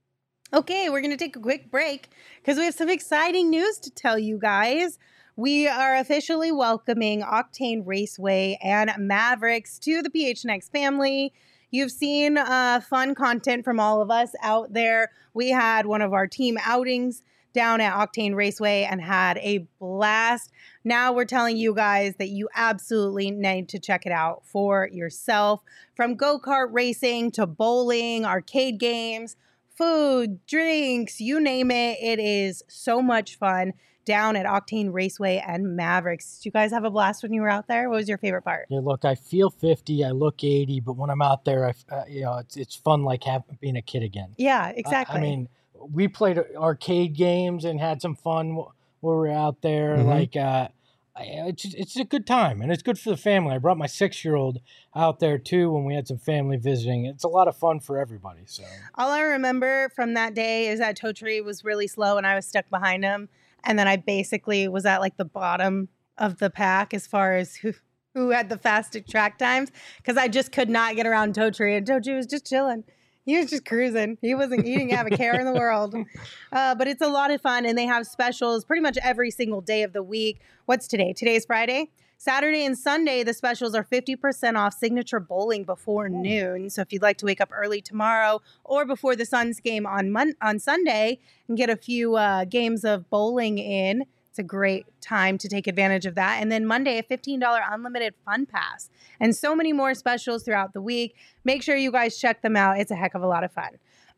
Okay, we're going to take a quick break because we have some exciting news to tell you guys. We are officially welcoming Octane Raceway and Mavericks to the P H N X family. You've seen uh, fun content from all of us out there. We had one of our team outings down at Octane Raceway and had a blast. Now we're telling you guys that you absolutely need to check it out for yourself. From go-kart racing to bowling, arcade games, food, drinks, you name it. It is so much fun down at Octane Raceway and Mavericks. Did you guys have a blast when you were out there? What was your favorite part? Yeah, look, I feel fifty, I look eighty, but when I'm out there, I, uh, you know, it's it's fun like having being a kid again. Yeah, exactly. I, I mean, we played arcade games and had some fun while we were out there. Mm-hmm. Like, uh, it's it's a good time, and it's good for the family. I brought my six-year-old out there too when we had some family visiting. It's a lot of fun for everybody. So all I remember from that day is that Totri was really slow, and I was stuck behind him. And then I basically was at like the bottom of the pack as far as who who had the fastest track times because I just could not get around Totri. And Totri was just chilling. He was just cruising. He wasn't, he didn't have a care in the world. Uh, but it's a lot of fun. And they have specials pretty much every single day of the week. What's today? Today's Friday. Saturday and Sunday, the specials are fifty percent off signature bowling before noon. So if you'd like to wake up early tomorrow or before the Suns game on Mon- on Sunday and get a few uh, games of bowling in, it's a great time to take advantage of that. And then Monday, a fifteen dollars unlimited fun pass. And so many more specials throughout the week. Make sure you guys check them out. It's a heck of a lot of fun.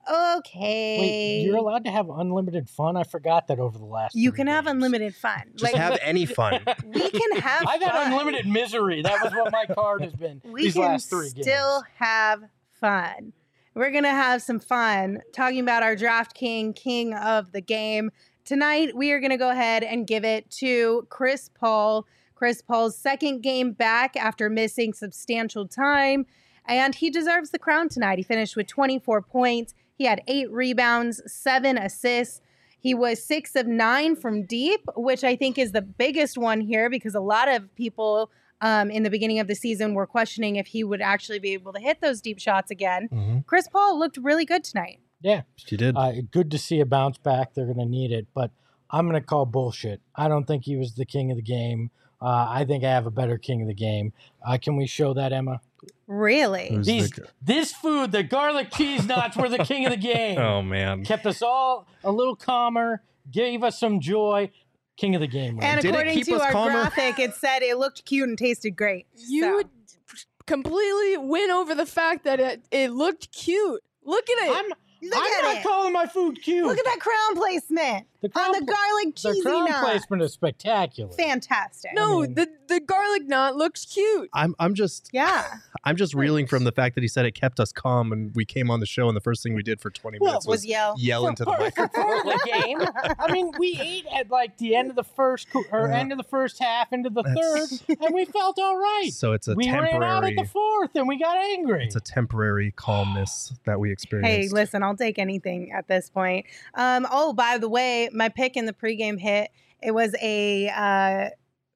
Okay. Wait, you're allowed to have unlimited fun? I forgot that over the last You can days. have unlimited fun. Just like, have any fun. We can have I've fun. had unlimited misery. That was what my card has been we these can last three still games. have fun. we're going to have some fun talking about our Draft King, king of the game. Tonight, we are going to go ahead and give it to Chris Paul. Chris Paul's second game back after missing substantial time, and he deserves the crown tonight. He finished with twenty-four points. He had eight rebounds, seven assists. He was six of nine from deep, which I think is the biggest one here because a lot of people um, in the beginning of the season were questioning if he would actually be able to hit those deep shots again. Mm-hmm. Chris Paul looked really good tonight. Yeah. She did. Uh, good to see a bounce back. They're going to need it, but I'm going to call bullshit. I don't think he was the king of the game. Uh, I think I have a better king of the game. Uh, can we show that, Emma? Really? Who's These, the- this food, the garlic cheese nuts, were the king of the game. Oh, man. Kept us all a little calmer, gave us some joy. King of the game. Right? And Did it according keep to us our calmer? graphic, it said it looked cute and tasted great. You So. completely win over the fact that it, it looked cute. Look at it. I'm, Look I'm at not it. calling my food cute. Look at that crown placement The on crown the pla- garlic The cheesy crown nut. placement is spectacular. Fantastic. no, I mean- the, the garlic knot looks cute. I'm I'm just Yeah. I'm just reeling from the fact that he said it kept us calm, and we came on the show, and the first thing we did for twenty Well, minutes Was was yell. yell into the For part- for microphone. part of the game. I mean, we ate at like the end of the first co- or Yeah. end of the first half into the That's- third, and we felt all right. So it's a we ran out temporary at the fourth, and we got angry. it's a temporary calmness that we experienced. Hey, listen, I'll take anything at this point. Um, oh, by the way, my pick in the pregame hit, it was a uh,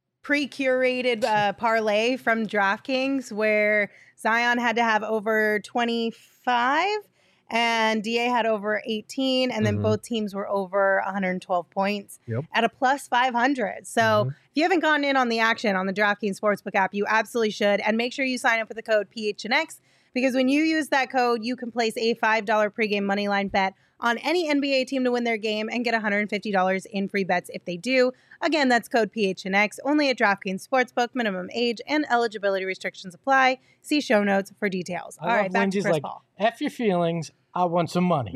pre-curated uh, parlay from DraftKings where Zion had to have over twenty-five and D A had over eighteen, and then Mhm. both teams were over one hundred twelve points Yep. at a plus five hundred. So Mhm. if you haven't gotten in on the action on the DraftKings Sportsbook app, you absolutely should. And make sure you sign up with the code P H N X because when you use that code, you can place a five dollars pregame moneyline bet on any N B A team to win their game and get one hundred fifty dollars in free bets if they do. Again, that's code P H N X, only at DraftKings Sportsbook. Minimum age and eligibility restrictions apply. See show notes for details. I All love right, back Lindsay's to Chris like, Paul. F your feelings. I want some money.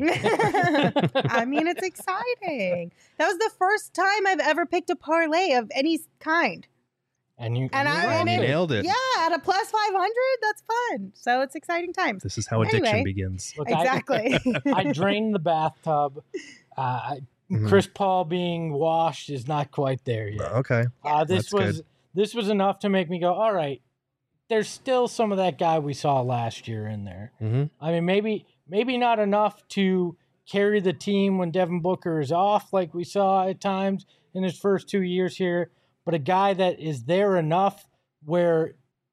I mean, it's exciting. That was the first time I've ever picked a parlay of any kind. and you, And you I- loved and You it. nailed it. Yeah, at a plus five hundred, that's fun. So it's exciting times. This is how addiction Anyway. begins. Look, I- Exactly. I drained the bathtub. Uh, I- Mhm. Chris Paul being washed is not quite there yet. Okay. Uh, this That's was good. this was enough to make me go, all right. There's still some of that guy we saw last year in there. Mm-hmm. I mean, maybe maybe not enough to carry the team when Devin Booker is off, like we saw at times in his first two years here, but a guy that is there enough where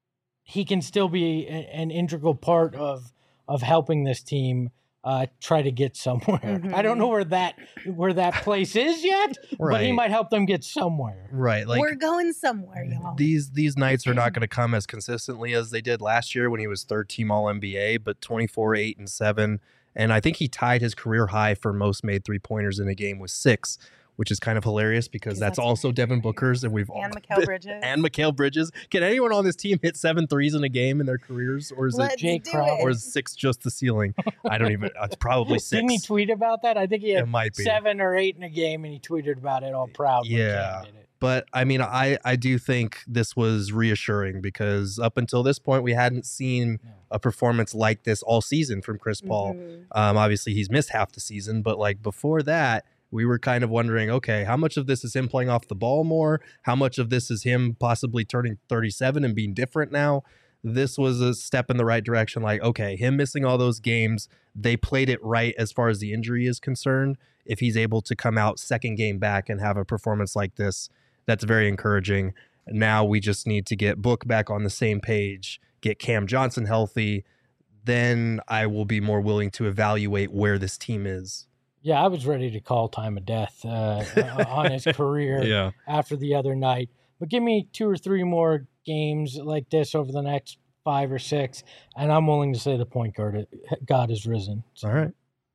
he can still be a, an integral part of of helping this team uh, try to get somewhere. Mhm. I don't know where that where that place is yet, but he Right. might help them get somewhere. Right. Like We're going somewhere, y'all. these these nights are not going to come as consistently as they did last year when he was third team All N B A, but twenty-four, eight, and seven. And I think he tied his career high for most made three pointers in a game with six, which is kind of hilarious because 'Cause that's, that's also right. Devin Booker's, and we've all And Mikal Bridges. and Mikal Bridges. Can anyone on this team hit seven threes in a game in their careers, or is Let's it Jake do Crowder. it. or is six just the ceiling? I don't even. It's probably six. Didn't he tweet about that? I think he had It might be. seven or eight in a game, and he tweeted about it all proud. when Yeah. Cam did it. But I mean, I, I do think this was reassuring because up until this point, we hadn't seen No. a performance like this all season from Chris Paul. Mhm. Um, obviously, he's missed half the season, but like before that, we were kind of wondering, okay, how much of this is him playing off the ball more? How much of this is him possibly turning thirty-seven and being different now? This was a step in the right direction. Like, okay, him missing all those games, they played it right as far as the injury is concerned. If he's able to come out second game back and have a performance like this, that's very encouraging. Now we just need to get Book back on the same page, get Cam Johnson healthy. Then I will be more willing to evaluate where this team is. Yeah, I was ready to call time of death uh, on his career Yeah. after the other night. But give me two or three more games like this over the next five or six, and I'm willing to say the point guard God has risen. So, All right.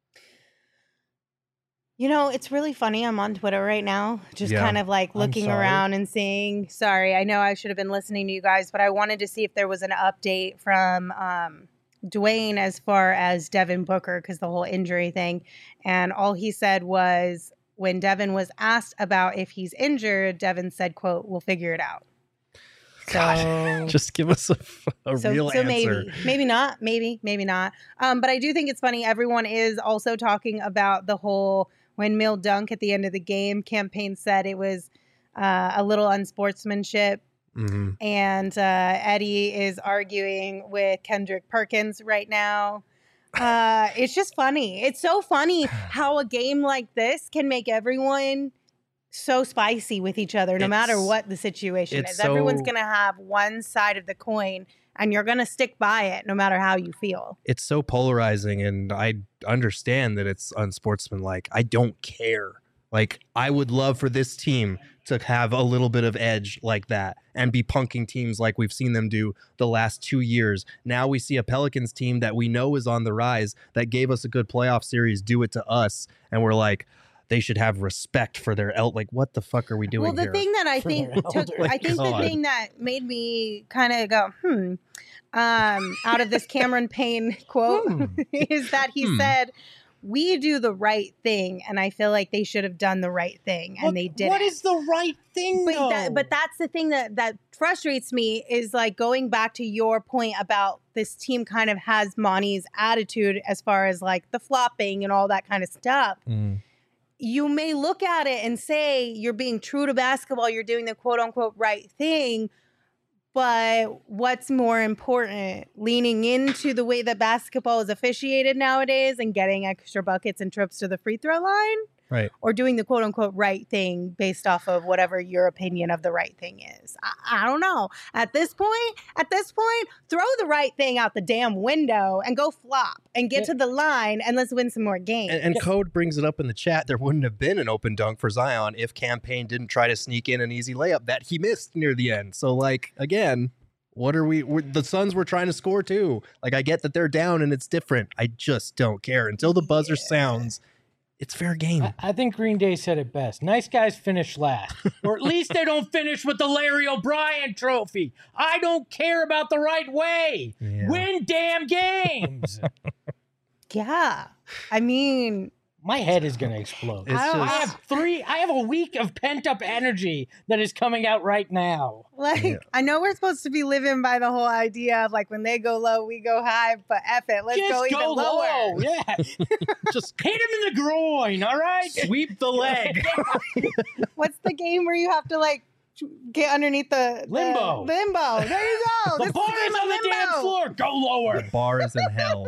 You know, it's really funny. I'm on Twitter right now, just Yeah. kind of like I'm looking sorry. around and seeing. Sorry, I know I should have been listening to you guys, but I wanted to see if there was an update from um, Dwayne as far as Devin Booker because the whole injury thing. And all he said was when Devin was asked about if he's injured, Devin said, quote, "We'll figure it out." So Just give us a, a so, real so answer. maybe, maybe not, maybe, maybe not. Um, but I do think it's funny. Everyone is also talking about the whole windmill dunk at the end of the game. Campaign said it was uh, a little unsportsmanship. Mm-hmm. And uh, Eddie is arguing with Kendrick Perkins right now. Uh, it's just funny. It's so funny how a game like this can make everyone so spicy with each other, no It's- matter what the situation it's is. Everyone's so- going to have one side of the coin, and you're going to stick by it no matter how you feel. It's so polarizing, and I understand that it's unsportsmanlike. I don't care. Like, I would love for this team to have a little bit of edge like that and be punking teams like we've seen them do the last two years. Now we see a Pelicans team that we know is on the rise that gave us a good playoff series do it to us, and we're like, they should have respect for their el. Like, what the fuck are we doing Well, the here? thing that I For think their took, elder. I think the God. thing that made me kind of go, hmm, um, out of this Cameron Payne quote Hmm. is that he Hmm. said, we do the right thing, and I feel like they should have done the right thing, and What- they didn't. What is the right thing, But though? that, but that's the thing that that frustrates me is like going back to your point about this team kind of has Monty's attitude as far as like the flopping and all that kind of stuff. Mm. You may look at it and say you're being true to basketball, you're doing the quote unquote right thing. But what's more important, leaning into the way that basketball is officiated nowadays and getting extra buckets and trips to the free throw line? Right. Or doing the quote unquote right thing based off of whatever your opinion of the right thing is? I, I don't know. At this point, at this point, throw the right thing out the damn window and go flop and get Yeah. to the line and let's win some more games. And, and Code brings it up in the chat. There wouldn't have been an open dunk for Zion if Campaign didn't try to sneak in an easy layup that he missed near the end. So, like, again, what are we? We're, the Suns were trying to score too. Like, I get that they're down and it's different. I just don't care until the buzzer Yeah. sounds. It's fair game. I, I think Green Day said it best. Nice guys finish last. Or at least they don't finish with the Larry O'Brien trophy. I don't care about the right way. Yeah. Win damn games. Yeah. I mean, My head is going to explode. It's I don't- I just- have three, I have a week of pent up energy that is coming out right now. like, Yeah. I know we're supposed to be living by the whole idea of like when they go low, we go high, but F it. Let's Just go even go lower. low. Yeah. just Hit him in the groin, all right? sweep the leg. What's the game where you have to like get underneath the, the- Limbo. Limbo. There you go. The This bar game is of on the limbo. damn floor. Go lower. The bar is in hell.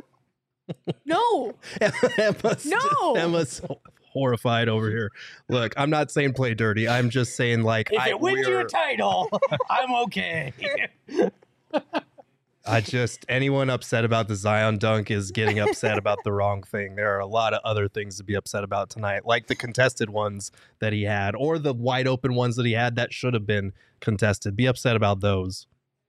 No. Emma's, No. Emma's horrified over here. Look, I'm not saying play dirty. I'm just saying, like, If I, it wins you we're- a title, I'm okay. I just, anyone upset about the Zion dunk is getting upset about the wrong thing. There are a lot of other things to be upset about tonight, like the contested ones that he had, or the wide open ones that he had that should have been contested. Be upset about those.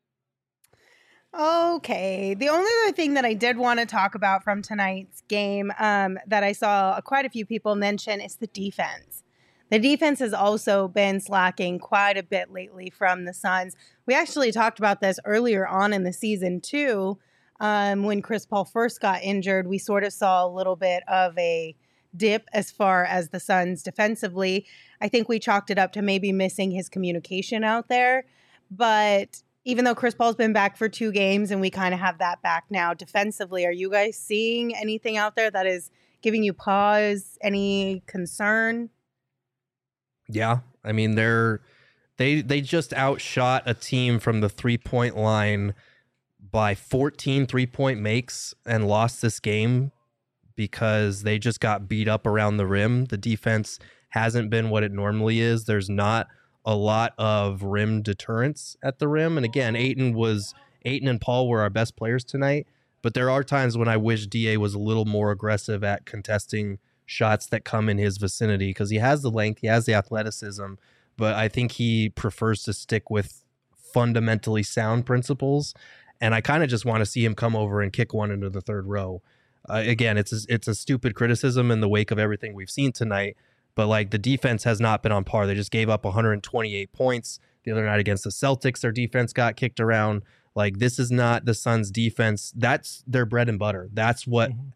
Okay. The only other thing that I did want to talk about from tonight's game um, that I saw quite a few people mention is the defense. The defense has also been slacking quite a bit lately from the Suns. We actually talked about this earlier on in the season, too. Um, when Chris Paul first got injured, we sort of saw a little bit of a dip as far as the Suns defensively. I think we chalked it up to maybe missing his communication out there. But even though Chris Paul's been back for two games and we kind of have that back now defensively, are you guys seeing anything out there that is giving you pause, any concern? Yeah, I mean they're they they just outshot a team from the three-point line by fourteen three-point makes and lost this game because they just got beat up around the rim. The defense hasn't been what it normally is. There's not a lot of rim deterrence at the rim, and again, Ayton was Ayton and Paul were our best players tonight, but there are times when I wish D A was a little more aggressive at contesting shots that come in his vicinity because he has the length, he has the athleticism, but I think he prefers to stick with fundamentally sound principles. And I kind of just want to see him come over and kick one into the third row. Uh, again, it's a, it's a stupid criticism in the wake of everything we've seen tonight, but like the defense has not been on par. They just gave up one hundred twenty-eight points the other night against the Celtics. Their defense got kicked around. Like, this is not the Suns' defense. That's their bread and butter. That's what Mhm.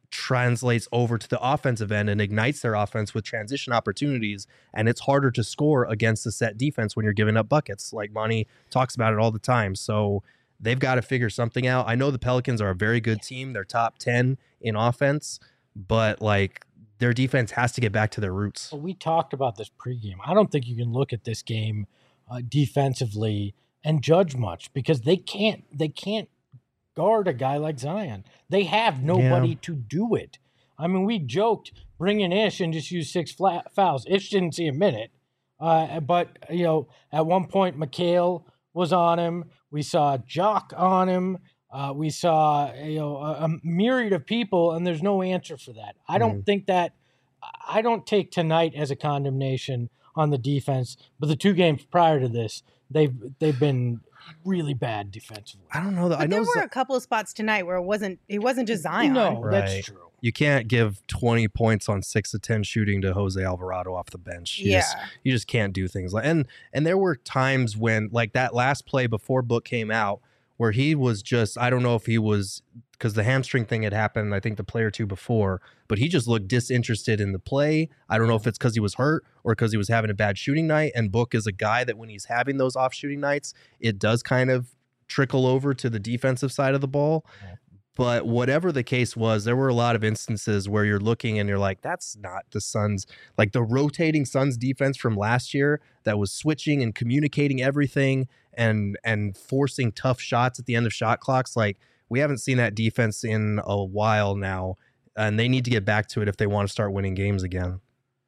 translates over to the offensive end and ignites their offense with transition opportunities. And it's harder to score against the set defense when you're giving up buckets. Like Monty talks about it all the time. So they've got to figure something out. I know the Pelicans are a very good team. They're top ten in offense, but like their defense has to get back to their roots. Well, we talked about this pregame. I don't think you can look at this game uh, defensively and judge much because they can't, they can't guard a guy like Zion. They have nobody Yeah. to do it. I mean, we joked bring in Ish and just use six flat fouls. Ish didn't see a minute, uh, but you know, at one point, McHale was on him. We saw Jock on him. Uh, we saw you know a, a myriad of people, and there's no answer for that. I don't Mhm. think that. I don't take tonight as a condemnation on the defense, but the two games prior to this, they've they've been really bad defensively. I don't know. That But I know there were Z- a couple of spots tonight where it wasn't it wasn't just Zion. No, Right. that's true. you can't give twenty points on six to ten shooting to Jose Alvarado off the bench. You Yeah. just, you just can't do things like, and, and there were times when like that last play before Book came out where he was just, I don't know if he was, because the hamstring thing had happened, I think the play or two before, but he just looked disinterested in the play. I don't know if it's because he was hurt or because he was having a bad shooting night. And Book is a guy that when he's having those off shooting nights, it does kind of trickle over to the defensive side of the ball. Yeah. But whatever the case was, there were a lot of instances where you're looking and you're like, that's not the Suns, like the rotating Suns defense from last year that was switching and communicating everything and and forcing tough shots at the end of shot clocks. Like we haven't seen that defense in a while now, and they need to get back to it if they want to start winning games again.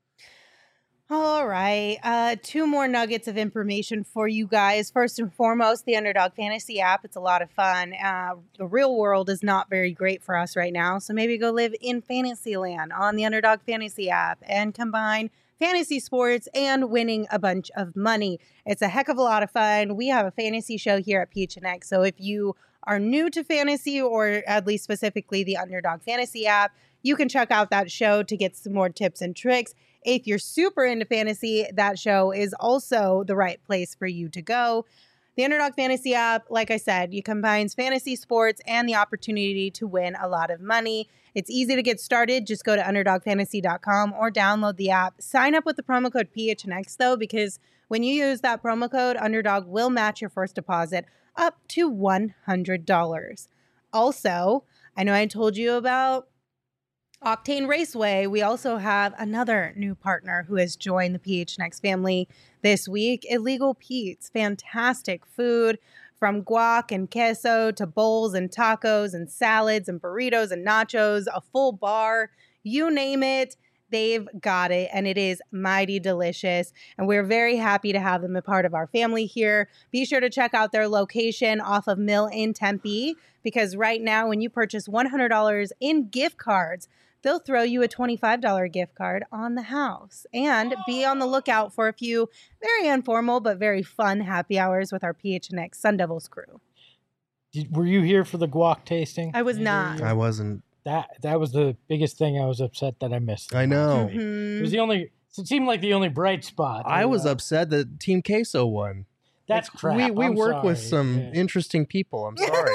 All right. Uh, two more nuggets of information for you guys. First and foremost, the Underdog Fantasy app. It's a lot of fun. Uh, the real world is not very great for us right now. So maybe go live in Fantasyland on the Underdog Fantasy app and combine fantasy sports and winning a bunch of money. It's a heck of a lot of fun. We have a fantasy show here at P H N X. So if you are new to fantasy, or at least specifically the Underdog Fantasy app, you can check out that show to get some more tips and tricks. If you're super into fantasy, that show is also the right place for you to go. The Underdog Fantasy app, like I said, it combines fantasy sports and the opportunity to win a lot of money. It's easy to get started. Just go to underdog fantasy dot com or download the app. Sign up with the promo code P H N X, though, because when you use that promo code, Underdog will match your first deposit up to one hundred dollars. Also, I know I told you about Octane Raceway. We also have another new partner who has joined the P H N X family this week, Illegal Pete's. Fantastic food from guac and queso to bowls and tacos and salads and burritos and nachos, a full bar, you name it. They've got it, and it is mighty delicious. And we're very happy to have them a part of our family here. Be sure to check out their location off of Mill in Tempe, because right now when you purchase one hundred dollars in gift cards, they'll throw you a twenty-five dollars gift card on the house. And be on the lookout for a few very informal but very fun happy hours with our P H N X Sun Devils crew. Did, were you here for the guac tasting? I was Either not. of you? I wasn't. That that was the biggest thing I was upset that I missed. I know. It Mhm. was the only. It seemed like the only bright spot. I was Uh, upset that Team Queso won. That's crap. We we I'm work with sorry. some Yeah. interesting people. I'm sorry.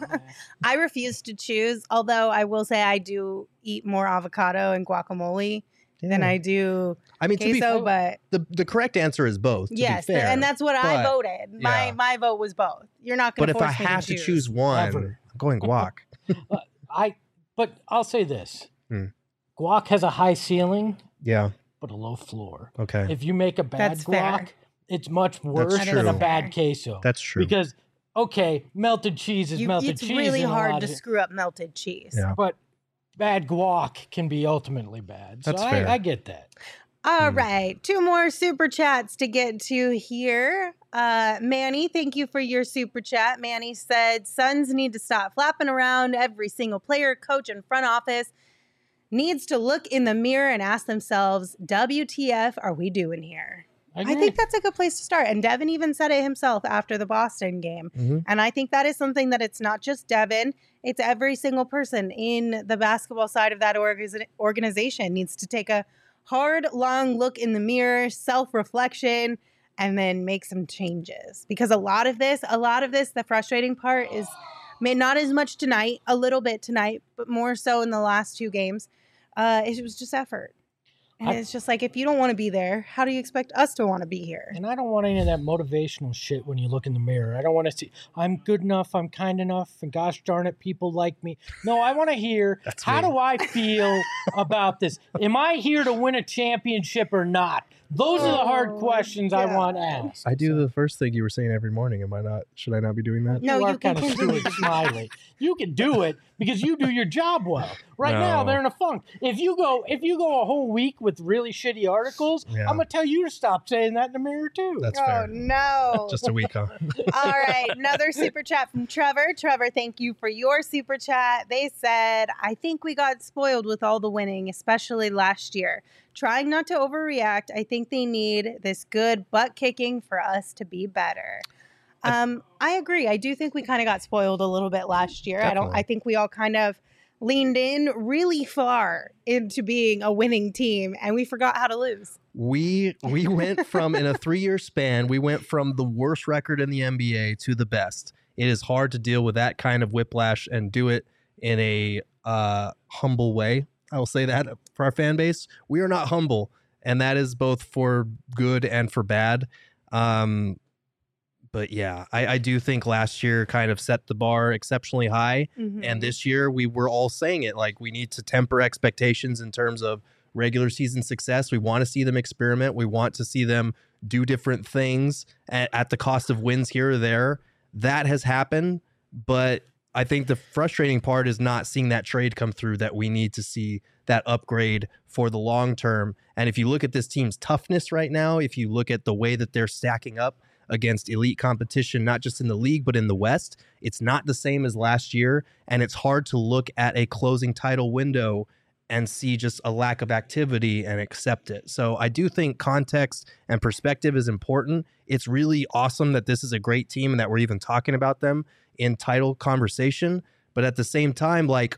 I refuse to choose, although I will say I do eat more avocado and guacamole than Yeah. I do I mean, to be queso, but the the correct answer is both. To yes, be fair. and that's what I but- voted. My yeah. my vote was both. You're not going But to if force I me have to to choose one, Ever. I'm going guac. I. But I'll say this: Hmm. guac has a high ceiling, Yeah. but a low floor. Okay. If you make a bad That's guac, fair. it's much worse That's than a true. bad queso. That's true. Because okay, melted cheese is You, melted it's cheese. really in a hard lot to of- screw up melted cheese. Yeah. But bad guac can be ultimately bad. So That's I, fair. I get that. All Hmm. right, two more super chats to get to here. Uh, Manny, thank you for your super chat. Manny said, Suns need to stop flapping around. Every single player, coach, and front office needs to look in the mirror and ask themselves, W T F are we doing here? I agree. think that's a good place to start. And Devin even said it himself after the Boston game. Mhm. And I think that is something that it's not just Devin, it's every single person in the basketball side of that org- organization needs to take a hard, long look in the mirror, self-reflection, and then make some changes. Because a lot of this, a lot of this, the frustrating part is May not as much tonight, a little bit tonight, but more so in the last two games. Uh, it was just effort. And I- it's just like, if you don't want to be there, how do you expect us to want to be here? And I don't want any of that motivational shit when you look in the mirror. I don't want to see, I'm good enough, I'm kind enough, and gosh darn it, people like me. No, I want to hear, That's how me. do I feel about this? Am I here to win a championship or not? Those are the hard Oh, questions I want God. asked. I do the first thing you were saying every morning. Am I not? Should I not be doing that? No, you you are can kind of continue Stuart to do Smiley. You can do it because you do your job well. Right now, No. they're in a funk. If you go, if you go a whole week with really shitty articles, Yeah. I'm gonna tell you to stop saying that in the mirror too. That's Oh, fair. no. Just a week, huh? All right, another super chat from Trevor. Trevor, thank you for your super chat. They said, I think we got spoiled with all the winning, especially last year. Trying not to overreact, I think they need this good butt kicking for us to be better. Um, I agree. I do think we kind of got spoiled a little bit last year. I don't. Definitely. I think we all kind of leaned in really far into being a winning team, and we forgot how to lose. We we went from in a three year span, we went from the worst record in the N B A to the best. It is hard to deal with that kind of whiplash and do it in a uh, humble way. I will say that for our fan base, we are not humble, and that is both for good and for bad. Um, but yeah, I, I do think last year kind of set the bar exceptionally high. Mhm. And this year we were all saying it, like we need to temper expectations in terms of regular season success. We want to see them experiment. We want to see them do different things at, at the cost of wins here or there. That has happened. But I think the frustrating part is not seeing that trade come through, that we need to see that upgrade for the long term. And if you look at this team's toughness right now, if you look at the way that they're stacking up against elite competition, not just in the league, but in the West, it's not the same as last year. And it's hard to look at a closing title window and see just a lack of activity and accept it. So I do think context and perspective is important. It's really awesome that this is a great team and that we're even talking about them in title conversation. But at the same time, like,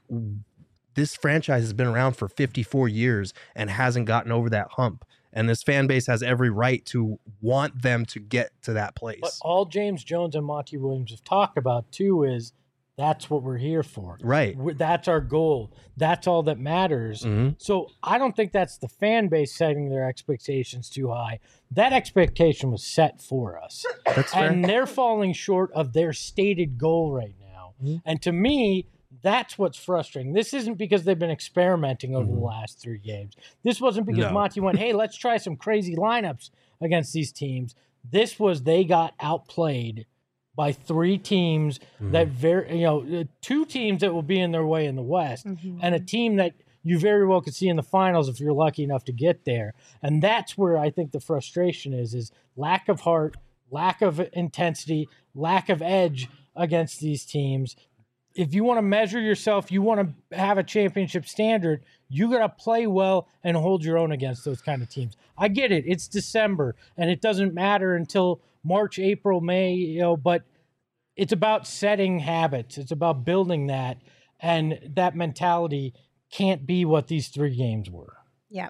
this franchise has been around for fifty-four years and hasn't gotten over that hump. And this fan base has every right to want them to get to that place. But all James Jones and Monty Williams have talked about too is that's what we're here for. Right. We're- That's our goal. That's all that matters. Mhm. So I don't think that's the fan base setting their expectations too high. That expectation was set for us. That's fair. And they're falling short of their stated goal right now. Mhm. And to me, that's what's frustrating. This isn't because they've been experimenting over Mhm. the last three games. This wasn't because No. Monty went, hey, let's try some crazy lineups against these teams. This was they got outplayed by three teams Mhm. that very, you know, uh, two teams that will be in their way in the West, Mhm. and a team that you very well could see in the finals if you're lucky enough to get there. And that's where I think the frustration is, is lack of heart, lack of intensity, lack of edge against these teams. If you want to measure yourself, you want to have a championship standard, you got to play well and hold your own against those kind of teams. I get it. It's December and it doesn't matter until March, April, May, you know, but it's about setting habits. It's about building that, and that mentality can't be what these three games were. Yeah.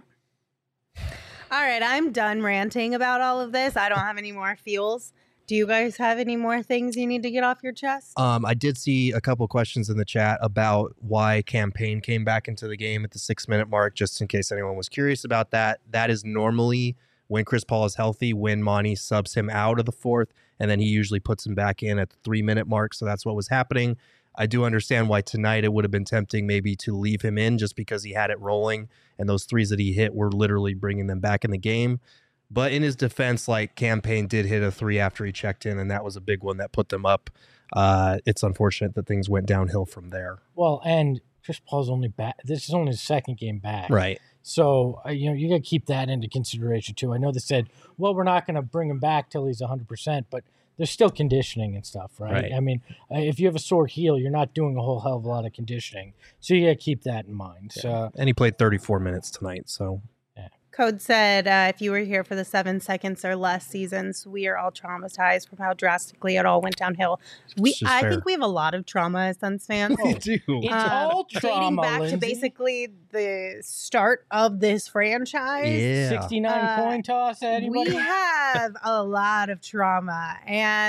All right, I'm done ranting about all of this. I don't have any more feels. Do you guys have any more things you need to get off your chest? Um, I did see a couple questions in the chat about why Campaign came back into the game at the six minute mark, just in case anyone was curious about that. That is normally when Chris Paul is healthy, when Monty subs him out of the fourth, and then he usually puts him back in at the three minute mark. So that's what was happening. I do understand why tonight it would have been tempting maybe to leave him in just because he had it rolling, and those threes that he hit were literally bringing them back in the game. But in his defense, like, Campaign did hit a three after he checked in, and that was a big one that put them up. Uh, it's unfortunate that things went downhill from there. Well, and Chris Paul's only back. This is only his second game back. Right. So, uh, you know, you got to keep that into consideration too. I know they said, well, we're not going to bring him back till he's one hundred percent, but there's still conditioning and stuff, right? Right. I mean, uh, if you have a sore heel, you're not doing a whole hell of a lot of conditioning. So you got to keep that in mind. So, And he played thirty-four minutes tonight, so. Code said, uh, if you were here for the seven seconds or less seasons, we are all traumatized from how drastically it all went downhill. We, It's just I fair. think we have a lot of trauma as Suns fans. We do. It's Uh, all dating trauma, back Lindsay. to basically the start of this franchise. Yeah. sixty-nine Uh, coin toss, anybody? We have a lot of trauma, and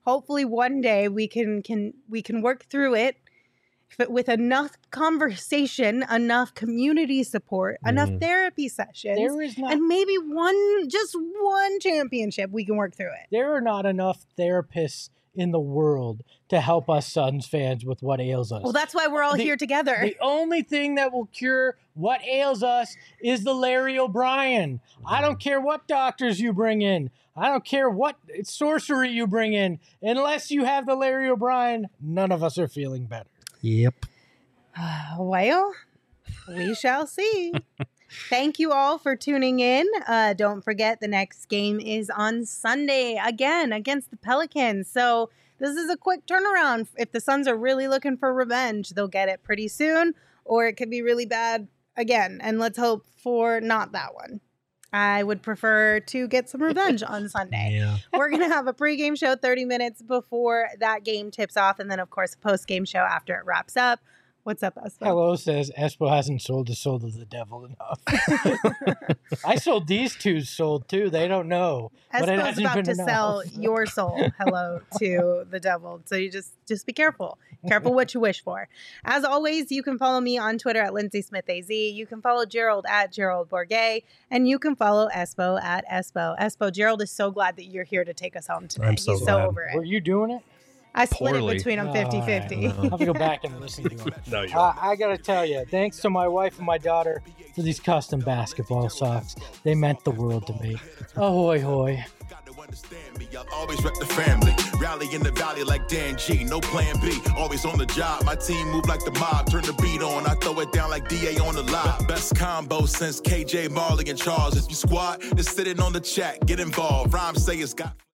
hopefully one day we can can we can work through it with enough conversation, enough community support, mm. enough therapy sessions, there is not, and maybe one, just one championship, we can work through it. There are not enough therapists in the world to help us Suns fans with what ails us. Well, that's why we're all the, here together. The only thing that will cure what ails us is the Larry O'Brien. I don't care what doctors you bring in. I don't care what sorcery you bring in. Unless you have the Larry O'Brien, none of us are feeling better. Yep. Well, we shall see. Thank you all for tuning in. Uh, don't forget the next game is on Sunday again against the Pelicans. So this is a quick turnaround. If the Suns are really looking for revenge, they'll get it pretty soon, or it could be really bad again. And let's hope for not that one. I would prefer to get some revenge on Sunday. Yeah. We're going to have a pregame show thirty minutes before that game tips off. And then, of course, a postgame show after it wraps up. What's up, Espo? Hello says Espo hasn't sold his soul to the devil enough. I sold these two sold too. They don't know. But it Espo's hasn't about been to enough. sell your soul, hello, to the devil. So you just just be careful. Careful what you wish for. As always, you can follow me on Twitter at Lindsay Smith A Z. You can follow Gerald at Gerald Bourget. And you can follow Espo at Espo. Espo, Gerald is so glad that you're here to take us home today. I'm so He's glad. so over it. Were you doing it? I split Poorly. it between them fifty-fifty. I'll have to go back and listen to it. No, you Uh, I got to tell you, thanks to my wife and my daughter for these custom basketball socks. They meant the world to me. Ahoy, hoy. Understand me, I'll always rep the family. Rally in the valley like Dan G, no plan B. Always on the job, my team move like the mob. Turn the beat on, I throw it down like D A on the live. Best combo since K J, Marley, and Charles. If you squad, just sitting on the chat, get involved. Rhymes say it's got...